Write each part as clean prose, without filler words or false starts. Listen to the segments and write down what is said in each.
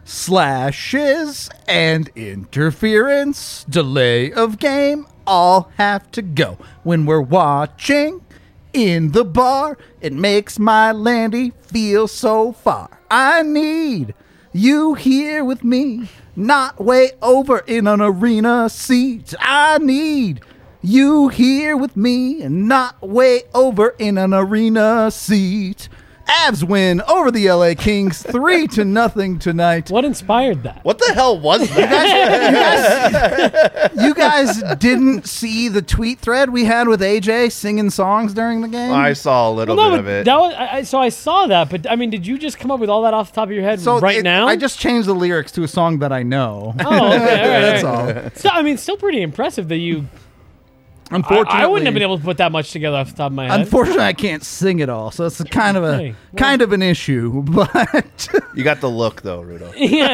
Slashes and interference, delay of game, all have to go. When we're watching in the bar, it makes my Landy feel so far. I need you here with me, not way over in an arena seat. I need you here with me and not way over in an arena seat. Avs win over the LA Kings 3-0 tonight. What inspired that? What the hell was that? You guys didn't see the tweet thread we had with AJ singing songs during the game? I saw a little bit of it. That was, so I saw that, but I mean, did you just come up with all that off the top of your head now? I just changed the lyrics to a song that I know. Oh, okay, all right. That's all. So, I mean, still pretty impressive that you... Unfortunately, I wouldn't have been able to put that much together off the top of my head. Unfortunately, I can't sing it all, so it's kind of an issue. But you got the look, though, Rudo.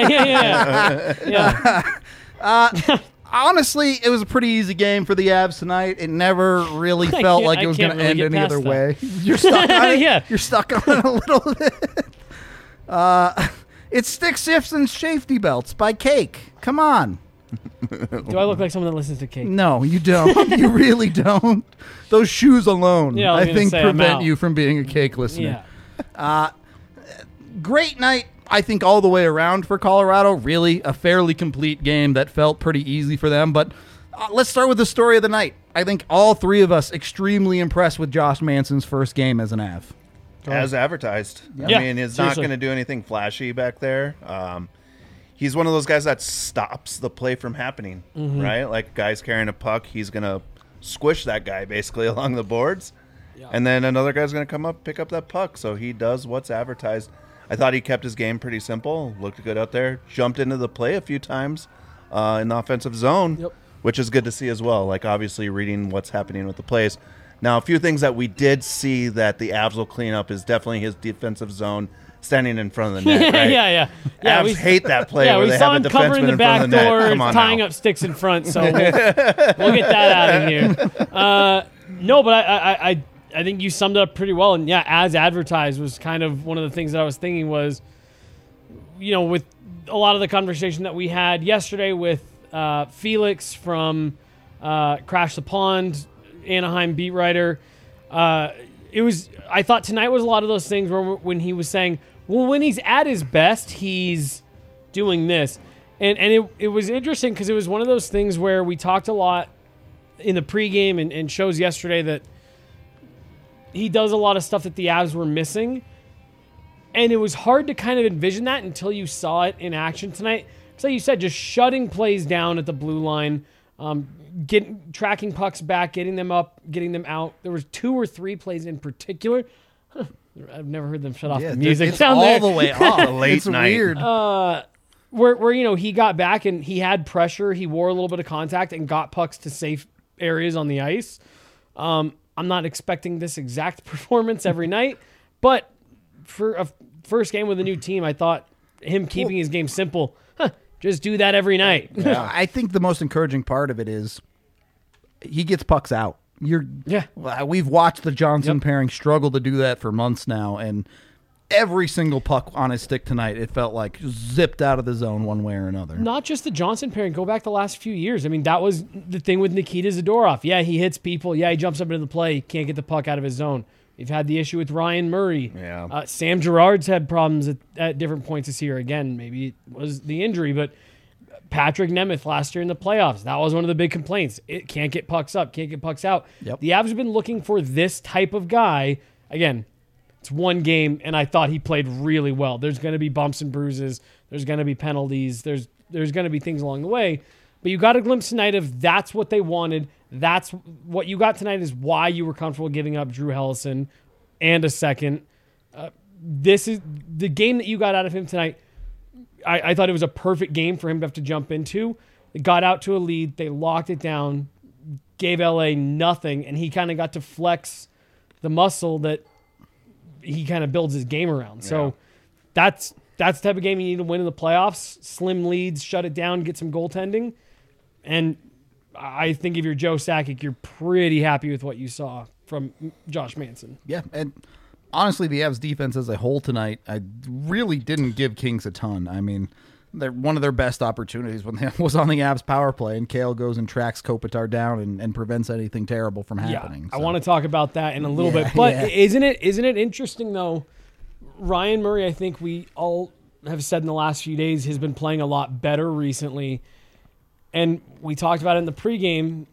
Yeah. Honestly, it was a pretty easy game for the Avs tonight. It never really felt like it was going to end any other way. You're stuck on it. Yeah. You're stuck on it a little bit. It's Stick Shifts and Safety Belts by Cake. Come on. Do I look like someone that listens to Cake? No, you don't. You really don't. Those shoes alone, I think, prevent you from being a Cake listener. Yeah. Great night, I think, all the way around for Colorado. Really a fairly complete game that felt pretty easy for them. But let's start with the story of the night. I think all three of us extremely impressed with Josh Manson's first game as an Av. As advertised. Yeah. I mean, he's not going to do anything flashy back there. He's one of those guys that stops the play from happening, right? Like, guy's carrying a puck, he's going to squish that guy basically along the boards. Yeah. And then another guy's going to come up, pick up that puck. So he does what's advertised. I thought he kept his game pretty simple, looked good out there, jumped into the play a few times in the offensive zone, which is good to see as well. Like, obviously reading what's happening with the plays. Now, a few things that we did see that the Avs will clean up is definitely his defensive zone standing in front of the net, right? Yeah. Avs hate that play where they have a defenseman in front of the net. Come on, tying up sticks in front, so we'll get that out of here. No, but I think you summed it up pretty well. And yeah, as advertised was kind of one of the things that I was thinking was, with a lot of the conversation that we had yesterday with Felix from Crash the Pond, Anaheim beat writer. I thought tonight was a lot of those things where when he was saying, well, when he's at his best, he's doing this. And it was interesting because it was one of those things where we talked a lot in the pregame and shows yesterday that he does a lot of stuff that the Avs were missing. And it was hard to kind of envision that until you saw it in action tonight. Because like you said, just shutting plays down at the blue line, tracking pucks back, getting them up, getting them out. There was 2 or 3 plays in particular. I've never heard them shut off the music. It's all there. the way off. Late it's night. Weird. Where he got back and he had pressure, he wore a little bit of contact and got pucks to safe areas on the ice. I'm not expecting this exact performance every night, but for a first game with a new team, I thought him keeping his game simple. Just do that every night. Yeah, I think the most encouraging part of it is he gets pucks out. We've watched the Johnson pairing struggle to do that for months now, and every single puck on his stick tonight, it felt like zipped out of the zone one way or another. Not just the Johnson pairing. Go back the last few years. I mean, that was the thing with Nikita Zadorov. Yeah, he hits people. Yeah, he jumps up into the play. Can't get the puck out of his zone. We've had the issue with Ryan Murray. Yeah. Sam Girard's had problems at different points this year. Again, maybe it was the injury, but Patrick Nemeth last year in the playoffs, that was one of the big complaints. It can't get pucks up, can't get pucks out. Yep. The Avs have been looking for this type of guy. Again, it's one game, and I thought he played really well. There's going to be bumps and bruises. There's going to be penalties. There's going to be things along the way. But you got a glimpse tonight of that's what they wanted. That's what you got tonight is why you were comfortable giving up Drew Helleson and a second. This is the game that you got out of him tonight. I thought it was a perfect game for him to have to jump into. They got out to a lead. They locked it down, gave LA nothing, and he kind of got to flex the muscle that he kind of builds his game around. So that's the type of game you need to win in the playoffs. Slim leads, shut it down, get some goaltending. And I think if you're Joe Sakic, you're pretty happy with what you saw from Josh Manson. Yeah, and honestly, the Avs defense as a whole tonight, I really didn't give Kings a ton. I mean, they're one of their best opportunities when they was on the Avs power play, and Kale goes and tracks Kopitar down and prevents anything terrible from happening. I want to talk about that in a little bit, but isn't it interesting though? Ryan Murray, I think we all have said in the last few days, has been playing a lot better recently, and we talked about it in the pregame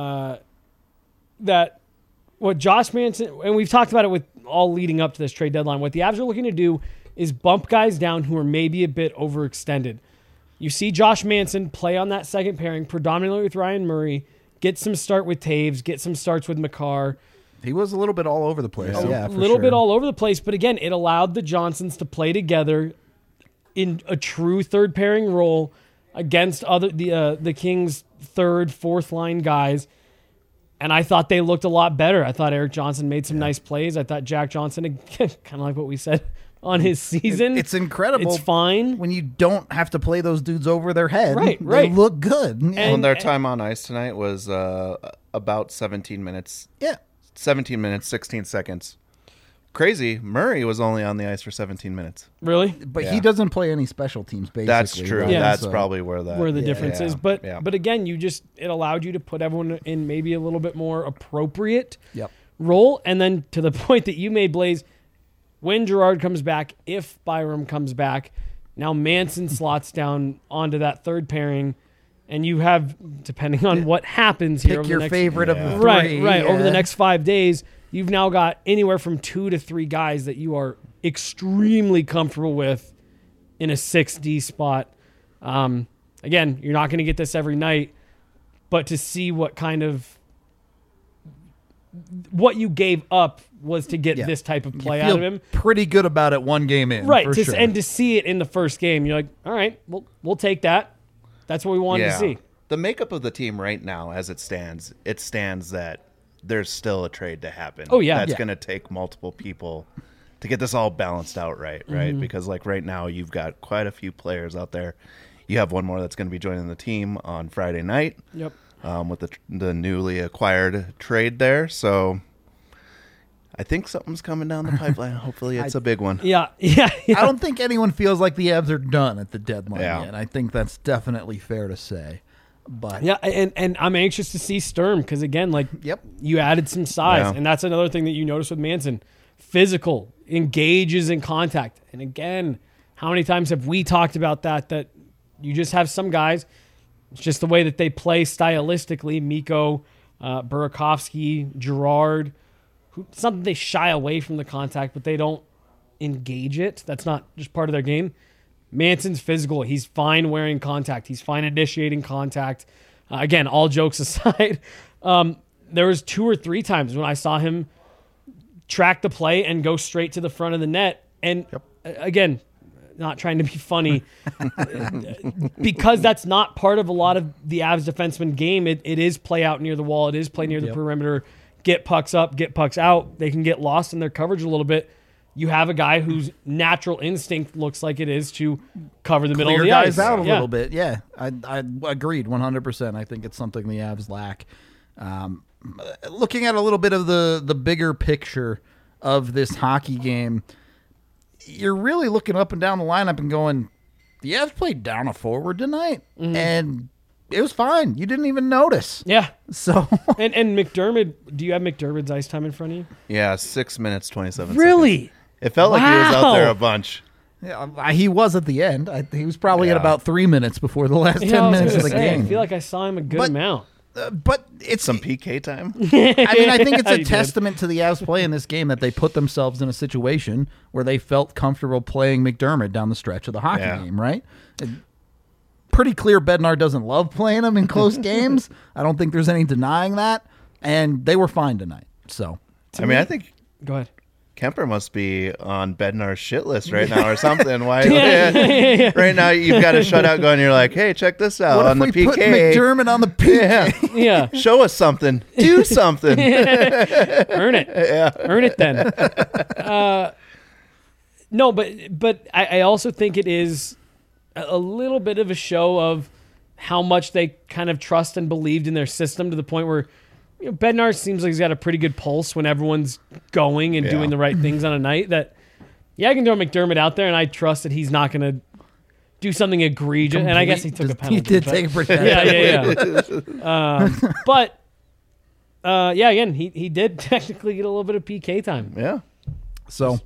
that what Josh Manson, and we've talked about it with all leading up to this trade deadline. What the Avs are looking to do is bump guys down who are maybe a bit overextended. You see Josh Manson play on that second pairing, predominantly with Ryan Murray, get some start with Taves, get some starts with Makar. He was a little bit all over the place. A little bit all over the place, but again, it allowed the Johnsons to play together in a true third pairing role against the Kings' third, fourth line guys. And I thought they looked a lot better. I thought Erik Johnson made some nice plays. I thought Jack Johnson, kind of like what we said on his season. It's incredible. It's fine. When you don't have to play those dudes over their head. Right. They look good. And their time on ice tonight was about 17 minutes. Yeah. 17 minutes, 16 seconds. Crazy. Murray was only on the ice for 17 minutes. Really? But he doesn't play any special teams, basically. That's true. Right? Yeah. That's probably where the difference is. But Yeah. but again, it allowed you to put everyone in maybe a little bit more appropriate Yep. role. And then to the point that you made, Blaze, when Gerard comes back, if Byram comes back, now Manson slots down onto that third pairing, and you have, depending on what happens here, Pick your favorite of the three. Right. Over the next 5 days, you've now got anywhere from 2 to 3 guys that you are extremely comfortable with in a 6D spot. Again, you're not going to get this every night, but to see what you gave up was to get this type of play out of him. Pretty good about it one game in. Right. For sure. And to see it in the first game, you're like, all right, we'll take that. That's what we wanted to see. The makeup of the team right now, as it stands that there's still a trade to happen. Oh, yeah. That's going to take multiple people to get this all balanced out right? Because like right now you've got quite a few players out there. You have one more that's going to be joining the team on Friday night. Yep. With the newly acquired trade there. So I think something's coming down the pipeline. Hopefully it's a big one. Yeah. I don't think anyone feels like the Avs are done at the deadline Yeah. yet. I think that's definitely fair to say. But Yeah, and I'm anxious to see Sturm because, again, you added some size. Yeah. And that's another thing that you notice with Manson. Physical, engages in contact. And again, how many times have we talked about that you just have some guys, it's just the way that they play stylistically, Mikko, Burakovsky, Gerard, something they shy away from the contact, but they don't engage it. That's not just part of their game. Manson's physical. He's fine wearing contact. He's fine initiating contact. Again, all jokes aside, there was 2 or 3 times when I saw him track the play and go straight to the front of the net. And again, not trying to be funny, because that's not part of a lot of the Avs defenseman game. It is play out near the wall. It is play near the perimeter. Get pucks up, get pucks out. They can get lost in their coverage a little bit. You have a guy whose natural instinct looks like it is to cover the middle of the guys ice. out a little bit. Yeah, I agreed 100%. I think it's something the Avs lack. Looking at a little bit of the bigger picture of this hockey game, you're really looking up and down the lineup and going, the Avs played down a forward tonight, and it was fine. You didn't even notice. Yeah. So and McDermott, do you have McDermott's ice time in front of you? Yeah, 6 minutes, 27 Really? seconds. It felt like he was out there a bunch. yeah, he was at the end. He was probably at Yeah. about 3 minutes before the last 10 I was minutes of gonna the say, game. I feel like I saw him a good But- amount. But it's Some PK time. I mean, I think it's You a did. testament to the Avs play in this game that they put themselves in a situation where they felt comfortable playing McDermott down the stretch of the hockey game, right? Pretty clear Bednar doesn't love playing him in close games. I don't think there's any denying that. And they were fine tonight. So, I mean, I think Go ahead. Kemper must be on Bednar's shit list right now or something. Why? Right now you've got a shutout going. You're like, hey, check this out what on if the we put PK. McDermott on the PK? Yeah, Yeah. show us something. Do something. Earn it. Earn it then. No, but I also think it is a little bit of a show of how much they kind of trust and believed in their system to the point where Bednar seems like he's got a pretty good pulse when everyone's going and doing the right things on a night that, I can throw McDermott out there and I trust that he's not going to do something egregious. And I guess he took a penalty. He did but- take a pretty yeah. But again, he did technically get a little bit of PK time. Yeah. So,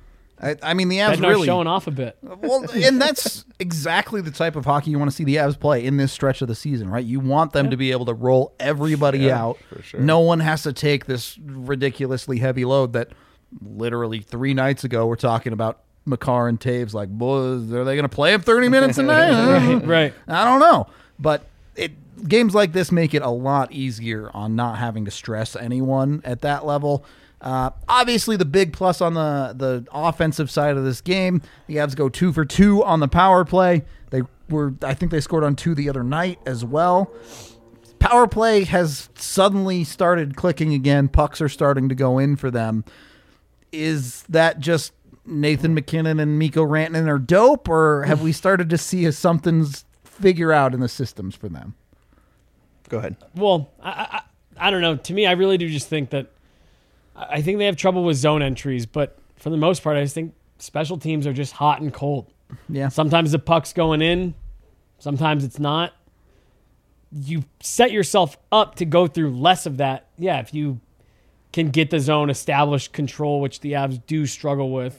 I mean, the Avs Bednar really showing off a bit. well, and that's exactly the type of hockey you want to see the Avs play in this stretch of the season, right? You want them to be able to roll everybody out. for sure. No one has to take this ridiculously heavy load that literally 3 nights ago we're talking about Makar and Taves like, boys, are they going to play him 30 minutes a night? Right. I don't know. But games like this make it a lot easier on not having to stress anyone at that level. Obviously, the big plus on the offensive side of this game, the Avs go 2 for 2 on the power play. I think they scored on 2 the other night as well. Power play has suddenly started clicking again. Pucks are starting to go in for them. Is that just Nathan McKinnon and Mikko Rantanen are dope, or have we started to see something's figure out in the systems for them? Go ahead. Well, I don't know. To me, I really do just think that I think they have trouble with zone entries, but for the most part, I just think special teams are just hot and cold. Yeah. Sometimes the puck's going in, sometimes it's not. You set yourself up to go through less of that. Yeah, if you can get the zone established control, which the Avs do struggle with.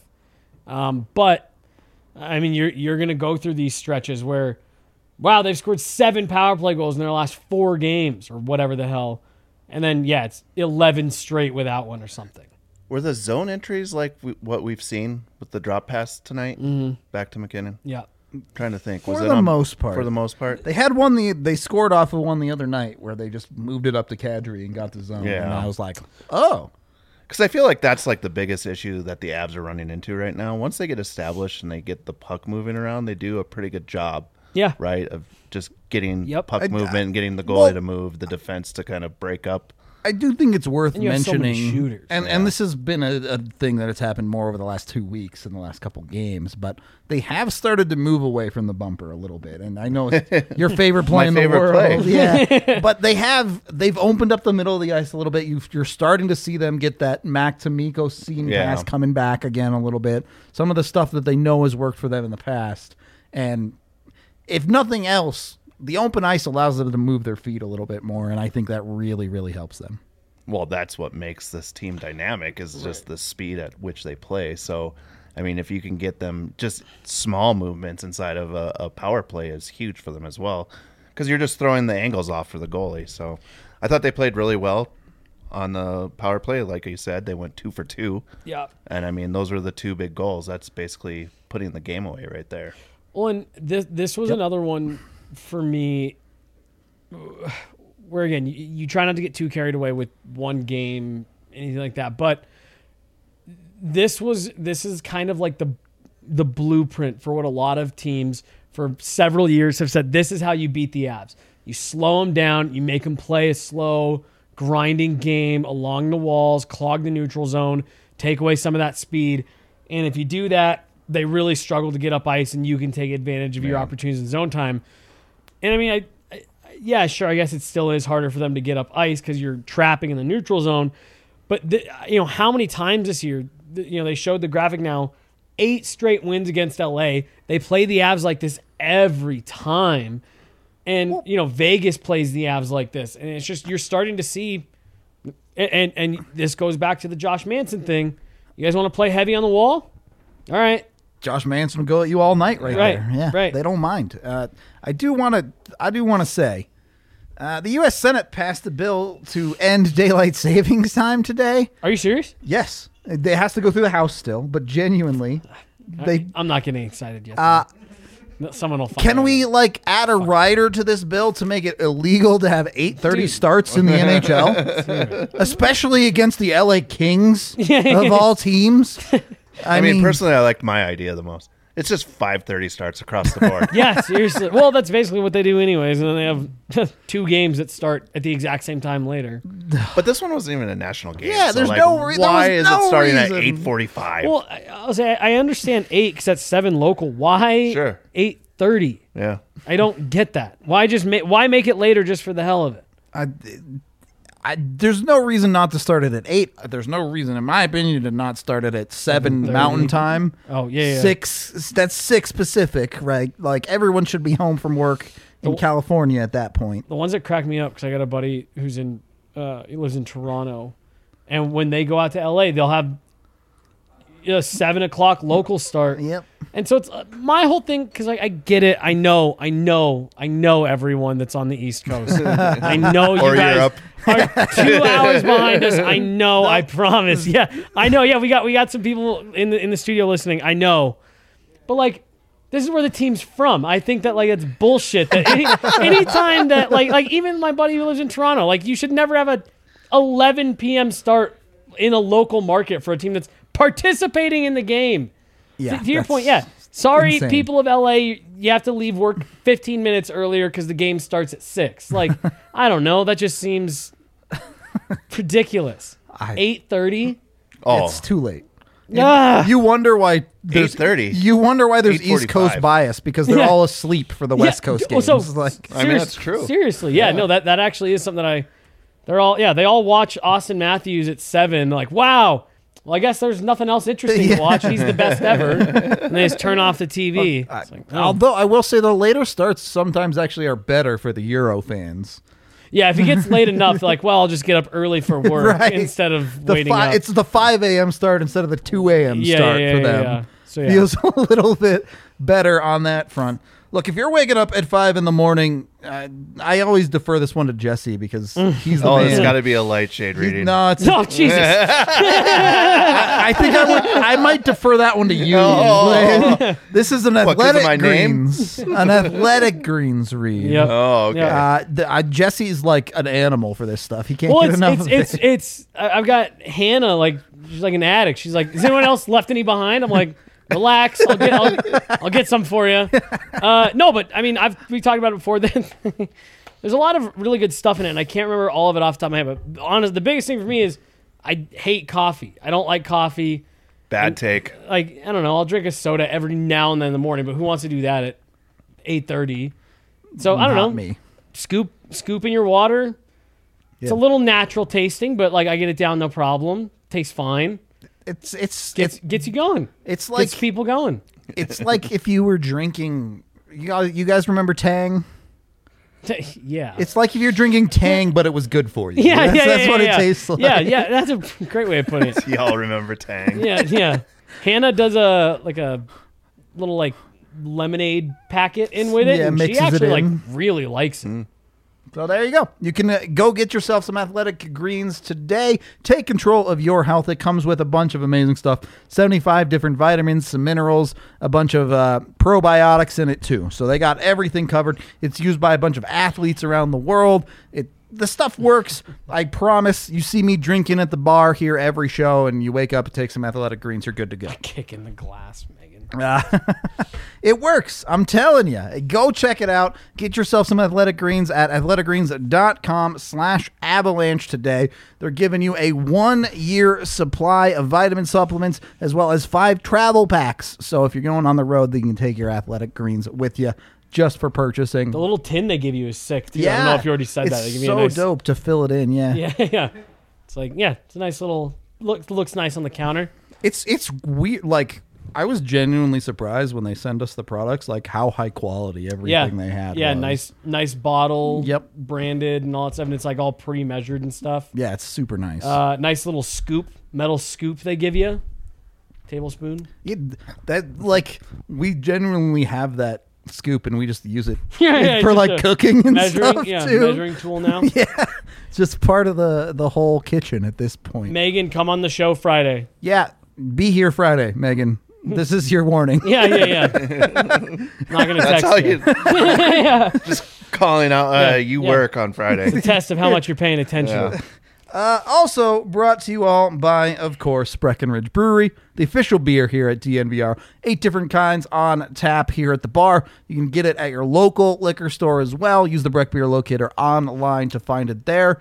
But, I mean, you're going to go through these stretches where, wow, they've scored 7 power play goals in their last 4 games or whatever the hell. And then, it's 11 straight without one or something. Were the zone entries like what we've seen with the drop pass tonight? Back to McKinnon? Yeah. I'm trying to think. For Was the it on- most part. For the most part? They had one. They scored off of one the other night where they just moved it up to Kadri and got the zone. Yeah. And I was like, oh, Because I feel like that's like the biggest issue that the Avs are running into right now. Once they get established and they get the puck moving around, they do a pretty good job. Yeah. Right? Of just getting Yep. puck movement and getting the goalie well- to move, the defense to kind of break up. I do think it's worth And you have so many mentioning. shooters. And this has been a thing that has happened more over the last 2 weeks in the last couple games, but they have started to move away from the bumper a little bit. And I know it's your favorite play My in the favorite world. play. Yeah. But they've opened up the middle of the ice a little bit. You're starting to see them get that Mac to Mikko seam pass coming back again a little bit. Some of the stuff that they know has worked for them in the past. And if nothing else, the open ice allows them to move their feet a little bit more, and I think that really, really helps them. Well, that's what makes this team dynamic is just the speed at which they play. So, I mean, if you can get them just small movements inside of a power play is huge for them as well because you're just throwing the angles off for the goalie. So I thought they played really well on the power play. Like you said, they went 2 for 2. Yeah. And, I mean, those were the 2 big goals. That's basically putting the game away right there. Well, and this was another one for me where, again, you try not to get too carried away with one game, anything like that. But this is kind of like the blueprint for what a lot of teams for several years have said. This is how you beat the Avs. You slow them down. You make them play a slow, grinding game along the walls, clog the neutral zone, take away some of that speed. And if you do that, they really struggle to get up ice, and you can take advantage of your opportunities in zone time. And I mean, yeah, sure, I guess it still is harder for them to get up ice because you're trapping in the neutral zone. But how many times this year, they showed the graphic now, 8 straight wins against LA. They play the Avs like this every time. And, Vegas plays the Avs like this. And it's just, you're starting to see, and this goes back to the Josh Manson thing. You guys want to play heavy on the wall? All right. Josh Manson will go at you all night right there. Yeah, right. They don't mind. I do want to say, the U.S. Senate passed a bill to end daylight savings time today. Are you serious? Yes, it has to go through the House still, but genuinely, I'm not getting excited yet. Someone will find Can out. we add a rider to this bill to make it illegal to have 8:30 starts in the NHL, especially against the LA Kings of all teams? I mean, personally, I liked my idea the most. It's just 5:30 starts across the board. Yeah, seriously. Well, that's basically what they do anyways, and then they have 2 games that start at the exact same time later. But this one wasn't even a national game. Yeah, so there's like, no re- there why was is no it starting reason. at 8:45? Well, I'll say I understand 8 because that's 7 local. Why Sure. 8:30? Yeah. I don't get that. Why make it later just for the hell of it? There's no reason not to start it at 8. There's no reason, in my opinion, to not start it at 7 Mountain Time. Oh, yeah. 6. That's 6 Pacific, right? Like everyone should be home from work in California at that point. The ones that crack me up, because I got a buddy who's he lives in Toronto, and when they go out to LA, they'll have a 7 o'clock local start. Yep. And so it's my whole thing, because I get it. I know everyone that's on the East Coast. I know you guys are 2 hours behind us. I know. I promise. Yeah, I know. Yeah, we got some people in the studio listening. I know, but like, this is where the team's from. I think that like it's bullshit. That anytime that like even my buddy who lives in Toronto, like you should never have a 11 p.m. start in a local market for a team that's participating in the game. Yeah, to your point, yeah. Sorry, insane. people of LA, you have to leave work 15 minutes earlier because the game starts at 6. Like, I don't know. That just seems ridiculous. 8:30? Oh, It's too late. Ah. You wonder why there's 8:30. You wonder why there's East 8:45. Coast bias, because they're Yeah. all asleep for the West Coast games. So, Like, I mean, that's true. Seriously, yeah. No, that actually is something that they all watch Austin Matthews at 7. Like, wow. Well, I guess there's nothing else interesting to watch. He's the best ever. And they just turn off the TV. It's like, oh. although I will say the later starts sometimes actually are better for the Euro fans. Yeah, if it gets late enough, they're like, well, I'll just get up early for work Right. instead of waiting up. It's the 5 a.m. start instead of the 2 a.m. start for them. Yeah. So, yeah. Feels a little bit better on that front. Look, if you're waking up at 5 in the morning, I always defer this one to Jesse because he's the man. it's got to be a light shade reading. No, it's Oh, Jesus. I think I might defer that one to you. Oh. This is an 'cause of athletic my name? greens, an athletic greens read. Yep. Oh, okay. Yeah. Jesse's like an animal for this stuff. He can't Well, get enough of it. I've got Hannah, like, she's like an addict. She's like, is anyone else left any behind? I'm like, relax. I'll get some for you. No, but I mean, we talked about it before. Then there's a lot of really good stuff in it, and I can't remember all of it off the top of my head. But honest, the biggest thing for me is I hate coffee. I don't like coffee. Bad take. Like, I don't know. I'll drink a soda every now and then in the morning, but who wants to do that at 8:30? So I don't know. Not me. Scoop in your water. It's a little natural tasting, but like I get it down no problem. Tastes fine. It's Gets you going. it's like Gets people going. it's like if you were drinking. You guys remember Tang? Yeah. It's like if you're drinking Tang, but it was good for you. yeah, That's what yeah. it tastes like. Yeah, that's a great way of putting it. Y'all remember Tang? Yeah. Hannah does a little like lemonade packet in with it, Yeah, and she mixes it actually like in. really likes it. So there you go. You can go get yourself some Athletic Greens today. Take control of your health. It comes with a bunch of amazing stuff. 75 different vitamins, some minerals, a bunch of probiotics in it too. So they got everything covered. It's used by a bunch of athletes around the world. The stuff works. I promise. You see me drinking at the bar here every show, and you wake up and take some Athletic Greens. You're good to go. Kick in the glass, Megan. It works. I'm telling you. Go check it out. Get yourself some Athletic Greens at athleticgreens.com/avalanche today. They're giving you a 1-year supply of vitamin supplements as well as 5 travel packs. So if you're going on the road, then you can take your Athletic Greens with you just for purchasing. The little tin they give you is sick too. I don't know if you already said that. They give It's you a so nice, dope to fill it in. Yeah. Yeah. It's like, it's a nice little looks nice on the counter. It's weird. Like, I was genuinely surprised when they send us the products, like how high quality everything they had. Yeah, was. nice bottle. Yep. Branded and all that stuff, and it's like all pre-measured and stuff. Yeah, it's super nice. Nice little metal scoop they give you. Tablespoon. Yeah, that like we genuinely have that scoop and we just use it Yeah, for just like a cooking and measuring, stuff yeah, too. measuring tool now. Yeah, it's just part of the whole kitchen at this point. Megan, come on the show Friday. Yeah, be here Friday, Megan. This is your warning. Yeah. Not gonna That's text how you. you just calling out. You work on Friday. It's a test of how much you're paying attention. Yeah. Also brought to you all by, of course, Breckenridge Brewery, the official beer here at DNVR. 8 different kinds on tap here at the bar. You can get it at your local liquor store as well. Use the Breck Beer Locator online to find it there.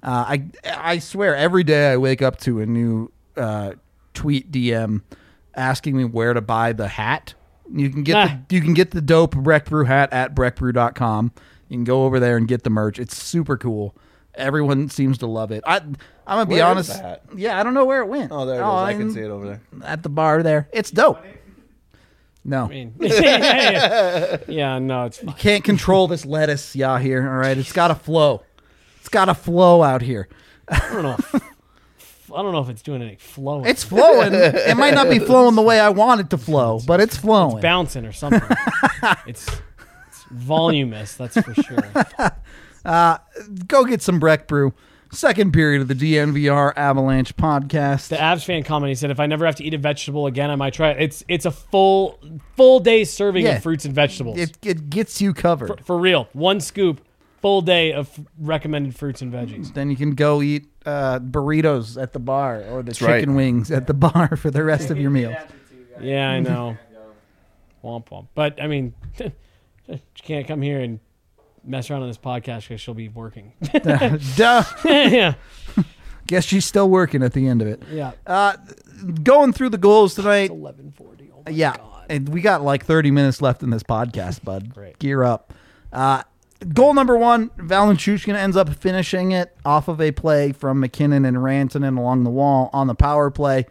I swear, every day I wake up to a new tweet DM asking me where to buy the hat. You can get the dope Breck Brew hat at breckbrew.com. You can go over there and get the merch. It's super cool. Everyone seems to love it. I'm gonna be Where is honest. that? Yeah, I don't know where it went. Oh, there it is. I can see it over there. At the bar there. It's dope. No. I mean, yeah, no, it's fine. Can't control this lettuce, Yahir. All right, it's got to flow. It's got to flow out here. I don't know if it's doing any flowing. It's flowing. It might not be flowing the way I want it to flow, but it's flowing. It's bouncing or something. it's voluminous, that's for sure. Go get some Breck Brew. Second period of the DNVR Avalanche podcast. The Avs fan comment, he said, if I never have to eat a vegetable again, I might try it. It's a full day serving Yeah. of fruits and vegetables. It gets you covered. For real. One scoop, full day of recommended fruits and veggies. Then you can go eat burritos at the bar or the That's chicken right. wings at the bar for the rest of your meal. Yeah, I know. Womp womp. But, I mean, you can't come here and mess around on this podcast because she'll be working. Duh. yeah. Guess she's still working at the end of it. Yeah. Going through the goals tonight. 11:40. Oh my Yeah. God. And we got like 30 minutes left in this podcast, bud. Great. Gear up. Goal number 1, Valenchushkin ends up finishing it off of a play from McKinnon and Rantanen along the wall on the power play.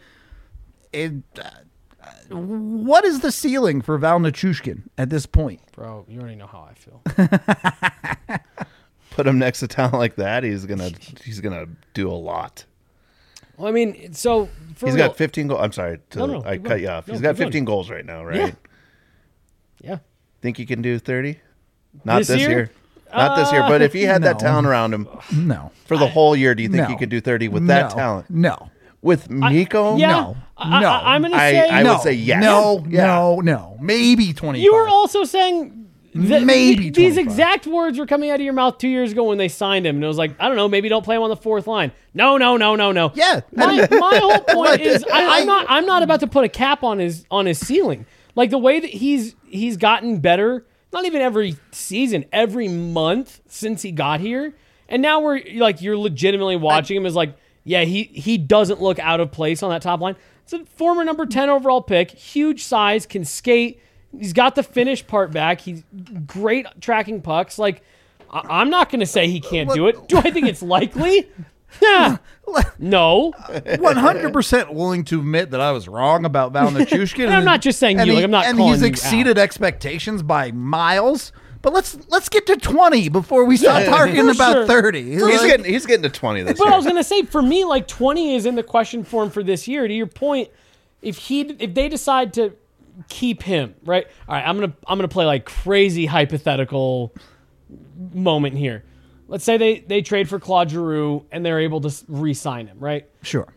What is the ceiling for Valenchushkin at this point? Bro, you already know how I feel. Put him next to talent like that, he's gonna do a lot. Well, I mean, so for He's real, got 15 goals. I'm sorry, No, I keep cut going. you off. No, He's got keep going. 15 goals right now, right? Yeah. Think he can do 30? Not This this year? year. Not this year. But if he had that No. talent around him No. for the whole year, do you think No. he could do 30 with that No. talent? No. With Miko? Yeah. No. No. I'm going to I- say I no. would say yes. No, Yeah. no. Maybe 25. you were also saying that Maybe these 25. exact words were coming out of your mouth 2 years ago when they signed him, and it was like, I don't know, maybe don't play him on the fourth line. No. Yeah. My whole point What? is I'm not about to put a cap on his ceiling. Like the way that he's gotten better, not even every season, every month since he got here. And now we're like, you're legitimately watching him as like, yeah, he doesn't look out of place on that top line. It's a former number 10 overall pick, huge size, can skate. He's got the finish part back. He's great tracking pucks. Like, I'm not going to say he can't do it. Do I think it's likely? Yeah. No. 100% willing to admit that I was wrong about Valenchushkin. And I'm not just saying you, like, I'm not and calling he's you exceeded expectations by miles. But let's get to 20 before we start talking For about sure. 30. He's getting to 20 this But year. I was gonna say, for me, like 20 is in the question for him for this year. To your point, if they decide to keep him, right? All right, I'm gonna play like crazy hypothetical moment here. Let's say they trade for Claude Giroux and they're able to re-sign him, right? Sure.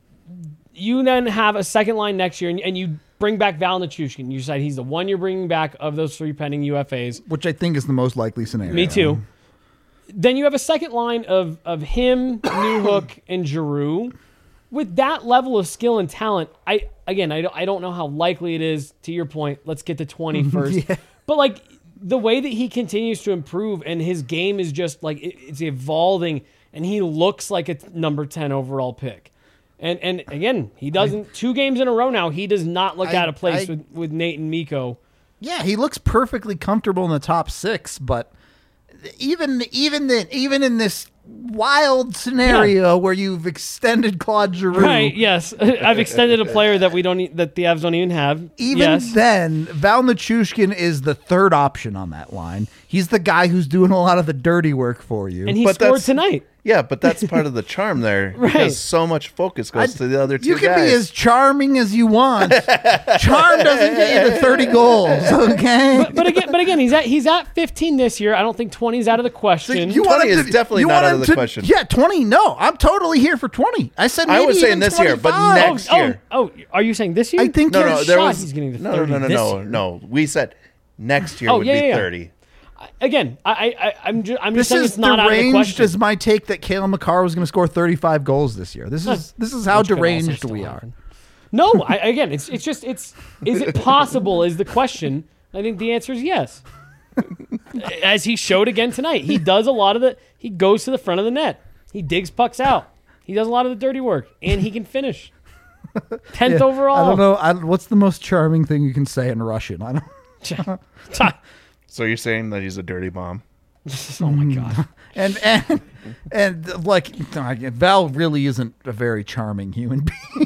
You then have a second line next year, and you bring back Val Nichushkin. You decide he's the one you're bringing back of those 3 pending UFAs. Which I think is the most likely scenario. Me too. Then you have a second line of him, Newhook, and Giroux. With that level of skill and talent, I don't know how likely it is, to your point. Let's get to 20 first. Yeah. But like the way that he continues to improve and his game is just like it's evolving, and he looks like a number 10 overall pick. And again, he doesn't 2 games in a row now. He does not look out of place with Nate and Miko. Yeah, he looks perfectly comfortable in the top 6, but even in this wild scenario where you've extended Claude Giroux, Right? Yes, I've extended a player that that the Avs don't even have. even yes. then, Val Nichushkin is the third option on that line. He's the guy who's doing a lot of the dirty work for you. And he But scored that's- tonight. Yeah, but that's part of the charm there. Right. Because so much focus goes to the other 2 you can guys. be as charming as you want. Charm doesn't get you to 30 goals, okay? But again, he's at 15 this year. I don't think 20 is out of the question. You 20 want him is definitely you not want out him of the to- question. Yeah, 20. No, I'm totally here for 20. I said maybe I was saying even this year, but 25. next year. Oh, are you saying this year? I think No, there's there shot was he's getting to no, 30 this year. no. We said next year Oh, would yeah, be yeah. 30. Again, I'm just This saying is it's not out of the deranged question. as my take that Kale McCarr was going to score 35 goals this year. This is how Which could also deranged still we are. happen. No, again, it's just is it possible is the question. I think the answer is yes. As he showed again tonight, he does a lot of he goes to the front of the net. He digs pucks out. He does a lot of the dirty work, and he can finish. 10th overall. I don't know. What's the most charming thing you can say in Russian? I don't. So you're saying that he's a dirty bomb? Oh my god. And like Val really isn't a very charming human being.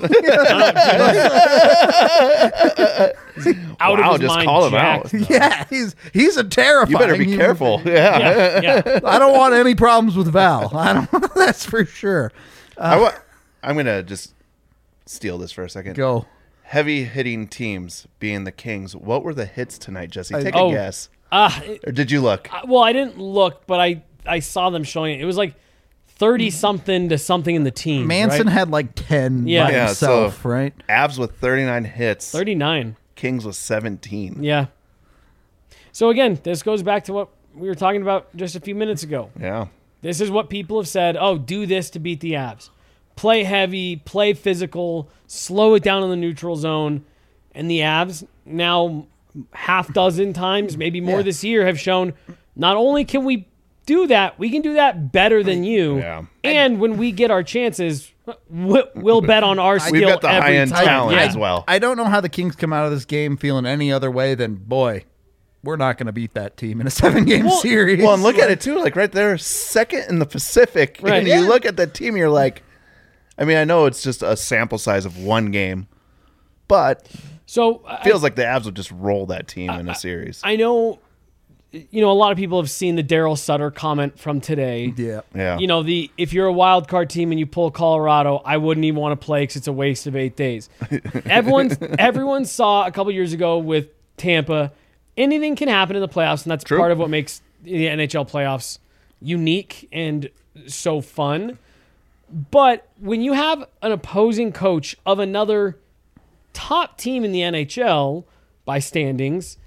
Out Wow, of his just mind, call him jacked, out. though. Yeah, he's a terrifying. You better be human careful. being. Yeah. Yeah. I don't want any problems with Val. I don't. That's for sure. I'm gonna just steal this for a second. Go. Heavy hitting teams being the Kings. What were the hits tonight, Jesse? Take Oh. a guess. Uh, Or did you look? well, I didn't look, but I saw them showing it. It was like 30 something to something in the team. Manson right? had like 10 Yeah. by Yeah, himself, so- right? Avs with 39 hits. 39. Kings with 17. Yeah. So again, this goes back to what we were talking about just a few minutes ago. Yeah. This is what people have said. Oh, do this to beat the Avs. Play heavy, play physical, slow it down in the neutral zone. And the Avs now half dozen times, maybe more Yeah. this year, have shown not only can we do that, we can do that better than you. Yeah. And when we get our chances, we'll bet on our skill We've got the every high-end time. talent Yeah. as well. I don't know how the Kings come out of this game feeling any other way than, boy, we're not going to beat that team in a 7-game Well- series. Well, and look at it too. Like right there, second in the Pacific. Right. And Yeah. you look at the team, you're like, I mean, I know it's just a sample size of one game, but So feels like the Avs would just roll that team in a series. I know, a lot of people have seen the Daryl Sutter comment from today. Yeah. Yeah. If you're a wild card team and you pull Colorado, I wouldn't even want to play because it's a waste of 8 days. Everyone saw a couple years ago with Tampa, anything can happen in the playoffs, and that's True. part of what makes the NHL playoffs unique and so fun. But when you have an opposing coach of another top team in the NHL by standings,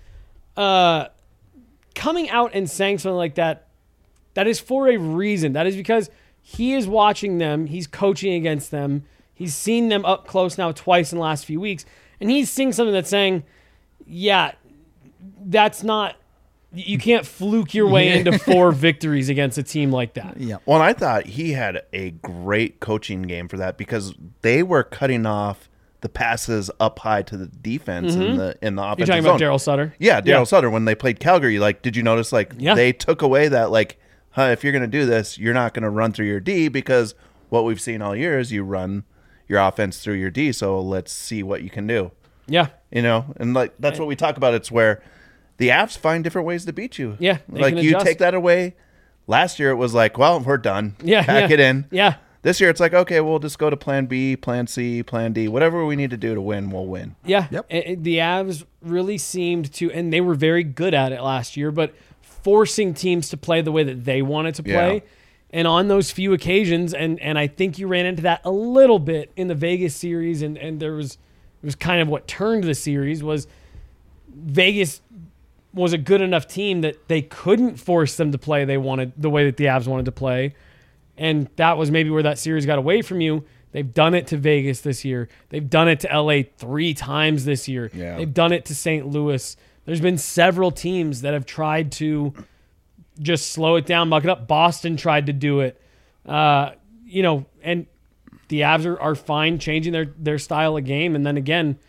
coming out and saying something like that, that is for a reason. That is because he is watching them. He's coaching against them. He's seen them up close now twice in the last few weeks. And he's seeing something that's saying, yeah, that's not, you can't fluke your way into 4 victories against a team like that. Yeah. Well, and I thought he had a great coaching game for that because they were cutting off the passes up high to the defense in the offensive You're talking zone. about Daryl Sutter? Yeah, Daryl Sutter when they played Calgary. Like, did you notice? Like, Yeah. they took away that if you're going to do this, you're not going to run through your D because what we've seen all year is you run your offense through your D. So let's see what you can do. Yeah. And like that's what we talk about. It's where the Avs find different ways to beat you. Yeah, they like can you adjust. take that away. Last year it was like, well, we're done. Yeah. Pack yeah. it in. Yeah. This year it's like, okay, we'll just go to plan B, plan C, plan D. Whatever we need to do to win, we'll win. Yeah. Yep. The Avs really seemed to, and they were very good at it last year, but forcing teams to play the way that they wanted to play. Yeah. And on those few occasions, and I think you ran into that a little bit in the Vegas series, and it was kind of what turned the series was Vegas was a good enough team that they couldn't force them to play the way that the Avs wanted to play. And that was maybe where that series got away from you. They've done it to Vegas this year. They've done it to LA 3 times this year. Yeah. They've done it to St. Louis. There's been several teams that have tried to just slow it down, muck it up. Boston tried to do it. And the Avs are fine changing their style of game. And then again,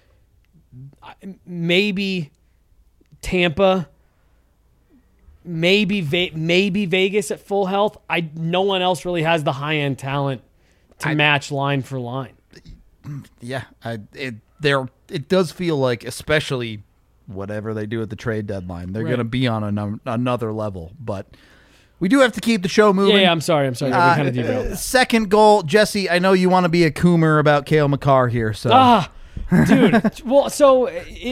maybe Tampa, maybe Vegas at full health. No one else really has the high-end talent to match line for line. Yeah. It does feel like, especially whatever they do at the trade deadline, they're Right. going to be on another level. But we do have to keep the show moving. Yeah, I'm sorry. We kind of derailed. Second goal, Jesse, I know you want to be a coomer about Cale Makar here. So Dude. Well, so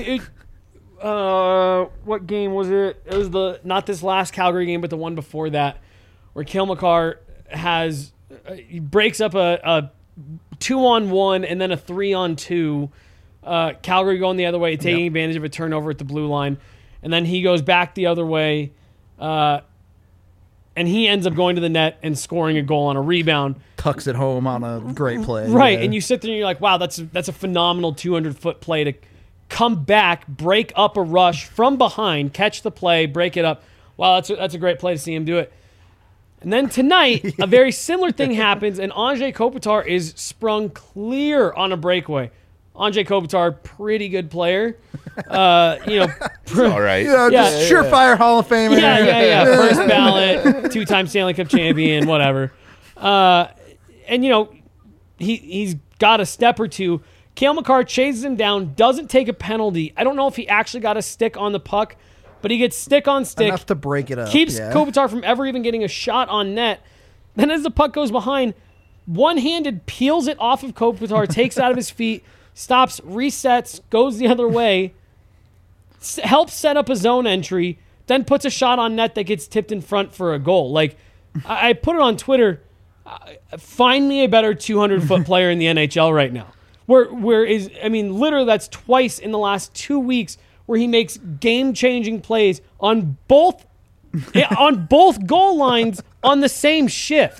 what game was it? It was not this last Calgary game, but the one before that, where Cale Makar he breaks up a 2-on-1 and then a 3-on-2. Calgary going the other way, taking advantage of a turnover at the blue line, and then he goes back the other way, and he ends up going to the net and scoring a goal on a rebound. tucks it home on a great play. Right, Yeah. and you sit there and you're like, wow, that's a phenomenal 200-foot play to come back, break up a rush from behind, catch the play, break it up. Wow, that's a great play to see him do it. And then tonight, a very similar thing happens, and Anze Kopitar is sprung clear on a breakaway. Andre Kopitar, pretty good player. All right. Just surefire Hall of Famer. Yeah. First ballot, 2-time Stanley Cup champion, whatever. And, he's got a step or two. Cale Makar chases him down, doesn't take a penalty. I don't know if he actually got a stick on the puck, but he gets stick on stick. Enough to break it up. Keeps Kopitar from ever even getting a shot on net. Then as the puck goes behind, one-handed peels it off of Kopitar, takes it out of his feet, stops, resets, goes the other way, helps set up a zone entry, then puts a shot on net that gets tipped in front for a goal. Like, I put it on Twitter, find me a better 200-foot player in the NHL right now. Literally that's twice in the last 2 weeks where he makes game-changing plays on both goal lines on the same shift.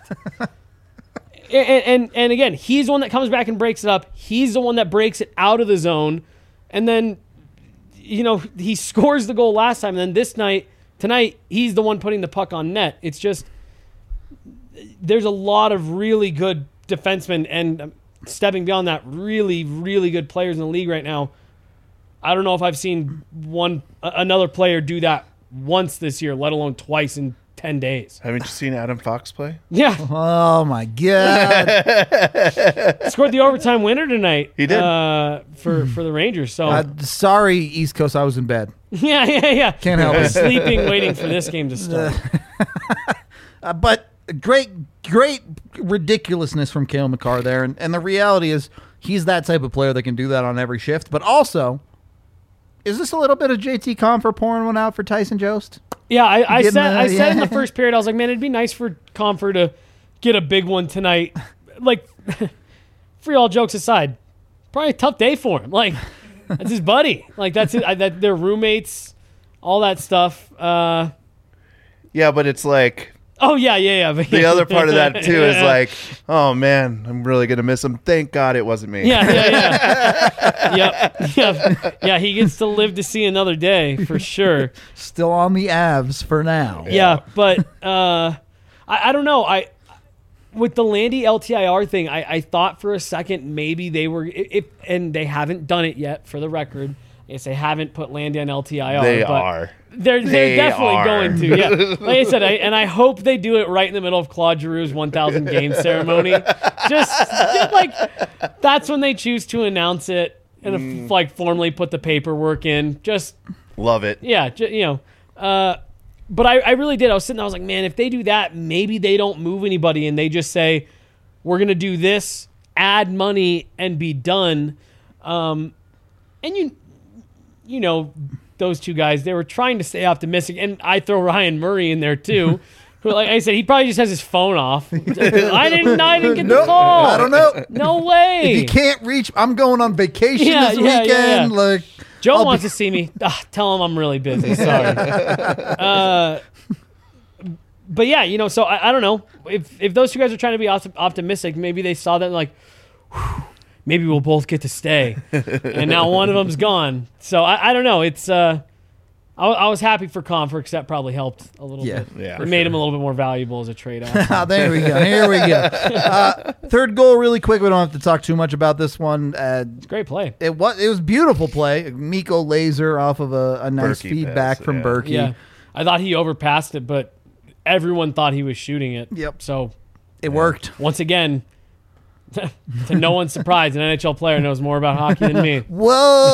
And again, he's the one that comes back and breaks it up. He's the one that breaks it out of the zone. And then, he scores the goal last time. And then tonight, he's the one putting the puck on net. It's just, there's a lot of really good defensemen and stepping beyond that, really, really good players in the league right now. I don't know if I've seen another player do that once this year, let alone twice in 10 days. Haven't you seen Adam Fox play? Yeah. Oh, my God. Scored the overtime winner tonight. He did. For the Rangers. So sorry, East Coast, I was in bed. Yeah. Can't help it. Sleeping, waiting for this game to start. But great ridiculousness from Cale Makar there. And the reality is he's that type of player that can do that on every shift. But also, is this a little bit of JT Compher pouring one out for Tyson Jost? Yeah, I said in the first period, I was like, man, it'd be nice for Compher to get a big one tonight. Like, for all jokes aside, probably a tough day for him. Like, that's his buddy. Like, that's it. They're roommates, all that stuff. Yeah, but it's like... Oh, yeah. The other part of that, too, is like, oh, man, I'm really going to miss him. Thank God it wasn't me. Yeah. Yep. Yeah, he gets to live to see another day, for sure. Still on the Avs for now. Yeah, but I don't know. With the Landy LTIR thing, I thought for a second maybe they were, and they haven't done it yet, for the record. I guess they haven't put Landy on LTIR. They are. They're definitely going to. Yeah, like I said, I hope they do it right in the middle of Claude Giroux's 1,000 game ceremony. Just like that's when they choose to announce it and formally put the paperwork in. Just love it. Yeah, but I really did. I was sitting there, I was like, man, if they do that, maybe they don't move anybody and they just say, we're going to do this, add money, and be done. And you know, those two guys, they were trying to stay optimistic. And I throw Ryan Murray in there too. Who, like I said, he probably just has his phone off. I didn't get the call. I don't know. No way. If you can't reach, I'm going on vacation this weekend. Yeah. Like Joe wants to see me. Tell him I'm really busy. Sorry. But yeah, you know, so I don't know. If those two guys are trying to be optimistic, maybe they saw that like, whew, maybe we'll both get to stay. And now one of them's gone. So I don't know. It's I was happy for Compher because that probably helped a little bit. Yeah, it made him a little bit more valuable as a trade option. There we go. Here we go. Third goal, really quick. We don't have to talk too much about this one. It's a great play. It was beautiful play. Miko Laser off of a nice Berkey feedback pass, from Berkey. Yeah, I thought he overpassed it, but everyone thought he was shooting it. Yep. So it worked. Once again, to no one's surprise, an NHL player knows more about hockey than me. Whoa!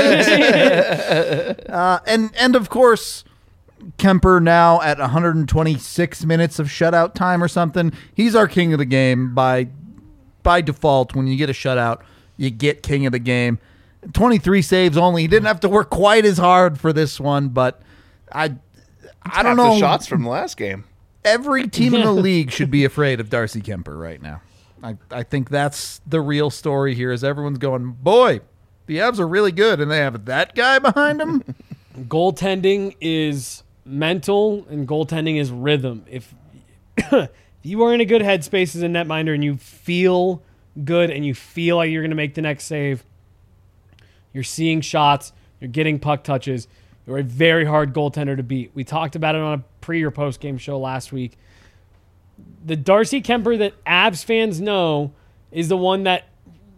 And of course, Kemper now at 126 minutes of shutout time or something. He's our king of the game by default. When you get a shutout, you get king of the game. 23 saves only. He didn't have to work quite as hard for this one, but I don't know. The shots from the last game. Every team in the league should be afraid of Darcy Kemper right now. I think that's the real story here is everyone's going, boy, the Avs are really good, and they have that guy behind them. Goaltending is mental, and goaltending is rhythm. If you are in a good headspace as a netminder and you feel good and you feel like you're going to make the next save, you're seeing shots, you're getting puck touches, you're a very hard goaltender to beat. We talked about it on a pre- or post-game show last week. The Darcy Kemper that Avs fans know is the one that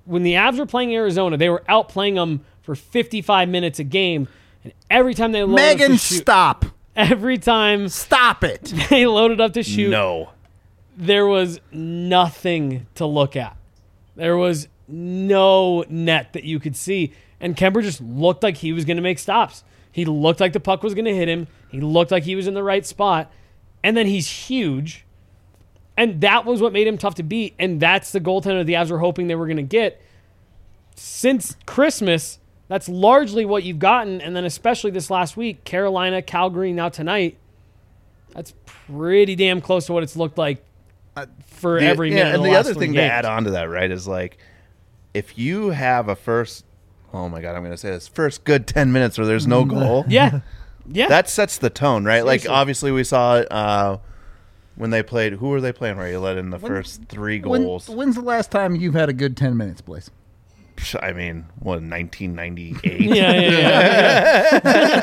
when the Avs were playing Arizona, they were outplaying them for 55 minutes a game. And every time they loaded up Megan, to shoot, stop. every time Stop it. they loaded up to shoot, No. there was nothing to look at. There was no net that you could see. And Kemper just looked like he was going to make stops. He looked like the puck was going to hit him. He looked like he was in the right spot. And then he's huge. And that was what made him tough to beat. And that's the goaltender the Avs were hoping they were going to get. Since Christmas, that's largely what you've gotten. And then especially this last week, Carolina, Calgary, now tonight, that's pretty damn close to what it's looked like for every minute. And of the last other three thing to games. add on to that, right, is like if you have a first, oh my God, I'm going to say this, first good 10 minutes where there's no goal. Yeah. Yeah. That sets the tone, right? Seriously. Like obviously we saw it when they played. Who were they playing? Where you let in the first 3 goals? When's the last time you've had a good 10 minutes, Blaze? I mean, what, 1998? yeah.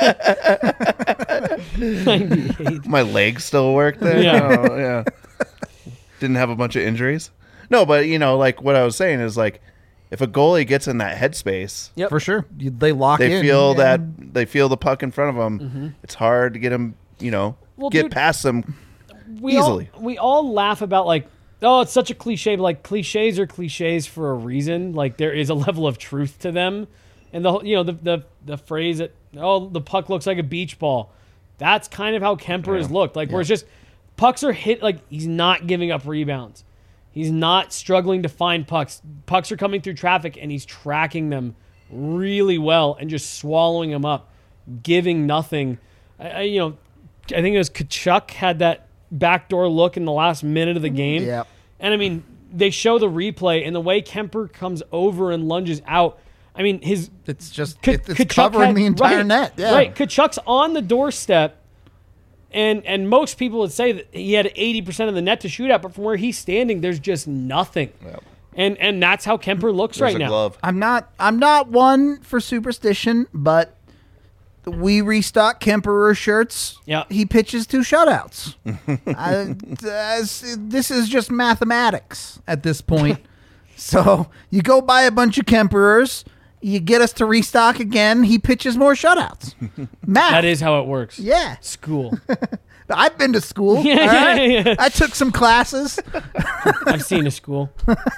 98. My legs still work there. Yeah. Oh, yeah. Didn't have a bunch of injuries. No, but like what I was saying is like, if a goalie gets in that headspace, Yep. For sure. They lock in. they feel and- they feel the puck in front of them. It's hard to get them, Well, get dude, past them. we easily. we all laugh about like, oh, it's such a cliche, but like cliches are cliches for a reason. Like there is a level of truth to them. And the phrase that, oh, the puck looks like a beach ball. That's kind of how Kemper has looked. Like where it's just pucks are hit, like he's not giving up rebounds. He's not struggling to find pucks. Pucks are coming through traffic and he's tracking them really well and just swallowing them up, giving nothing. I think it was Kachuk had that backdoor look in the last minute of the game. Yep. And I mean, they show the replay and the way Kemper comes over and lunges out. I mean, It's just Kachuk it's covering had- the entire right, net. Yeah. Right. Kachuk's on the doorstep, and most people would say that he had 80% of the net to shoot at, but from where he's standing, there's just nothing. Yep. And that's how Kemper looks There's right a now. glove. I'm not one for superstition, but we restock Kemperer shirts. Yeah. He pitches 2 shutouts. This is just mathematics at this point. So you go buy a bunch of Kemperers, you get us to restock again, he pitches more shutouts. Math. That is how it works. Yeah. School. I've been to school. Yeah, all right? yeah. I took some classes. I've seen a school.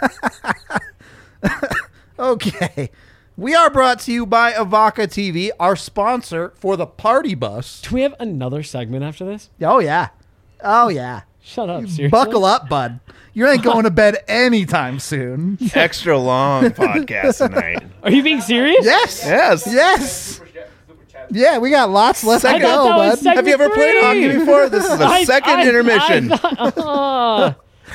Okay. We are brought to you by Avaka TV, our sponsor for the party bus. Do we have another segment after this? Oh, yeah. Oh, yeah. Shut up, seriously. Buckle up, bud. You ain't going to bed anytime soon. Extra long podcast tonight. Are you being serious? Yes. Yes. Yes. Yeah, we got lots left to I thought go, that was bud. segment Have you ever played 3. hockey before? This is the second intermission. I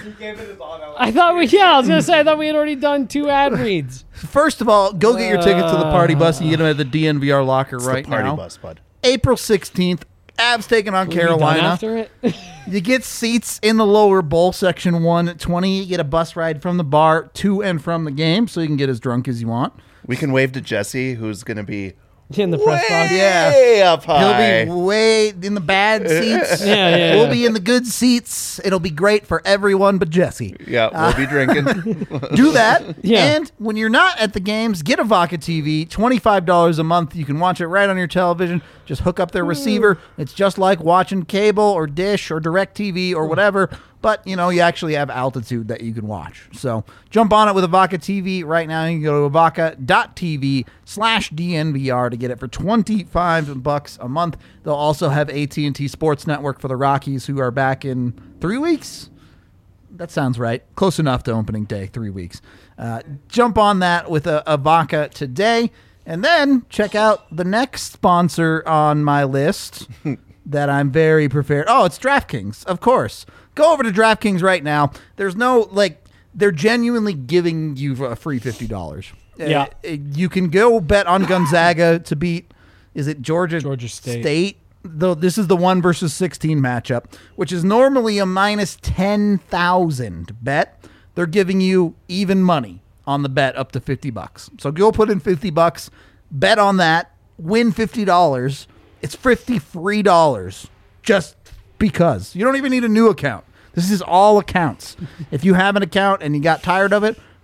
thought we had already done 2 ad reads. First of all, go get your tickets to the party bus and you get them at the DNVR locker It's right the party now. bus, bud. April 16th, Avs taking on Are we done Carolina. after it? You get seats in the lower bowl section 1 at 20. You get a bus ride from the bar to and from the game, so you can get as drunk as you want. We can wave to Jesse, who's going to be In the press box. way up high. He'll be way in the bad seats. Yeah. We'll be in the good seats. It'll be great for everyone but Jesse. Yeah, we'll be drinking. Do that. Yeah. And when you're not at the games, get a Vodka TV, $25 a month. You can watch it right on your television. Just hook up their receiver. It's just like watching cable or Dish or DirecTV or whatever. But, you actually have altitude that you can watch. So jump on it with a Vodka TV right now. You can go to avaka.tv/DNVR to get it for $25 a month. They'll also have AT&T Sports Network for the Rockies, who are back in 3 weeks. That sounds right. Close enough to opening day, 3 weeks. Jump on that with a vodka today. And then check out the next sponsor on my list that I'm very prepared. Oh, it's DraftKings, of course. Go over to DraftKings right now. There's no, they're genuinely giving you a free $50. Yeah. You can go bet on Gonzaga to beat, is it Georgia State. Though this is the 1 versus 16 matchup, which is normally a minus 10,000 bet. They're giving you even money on the bet up to $50. So go put in $50, bet on that, win $50. It's $50 free just because. You don't even need a new account. This is all accounts. If you have an account and you got tired of it,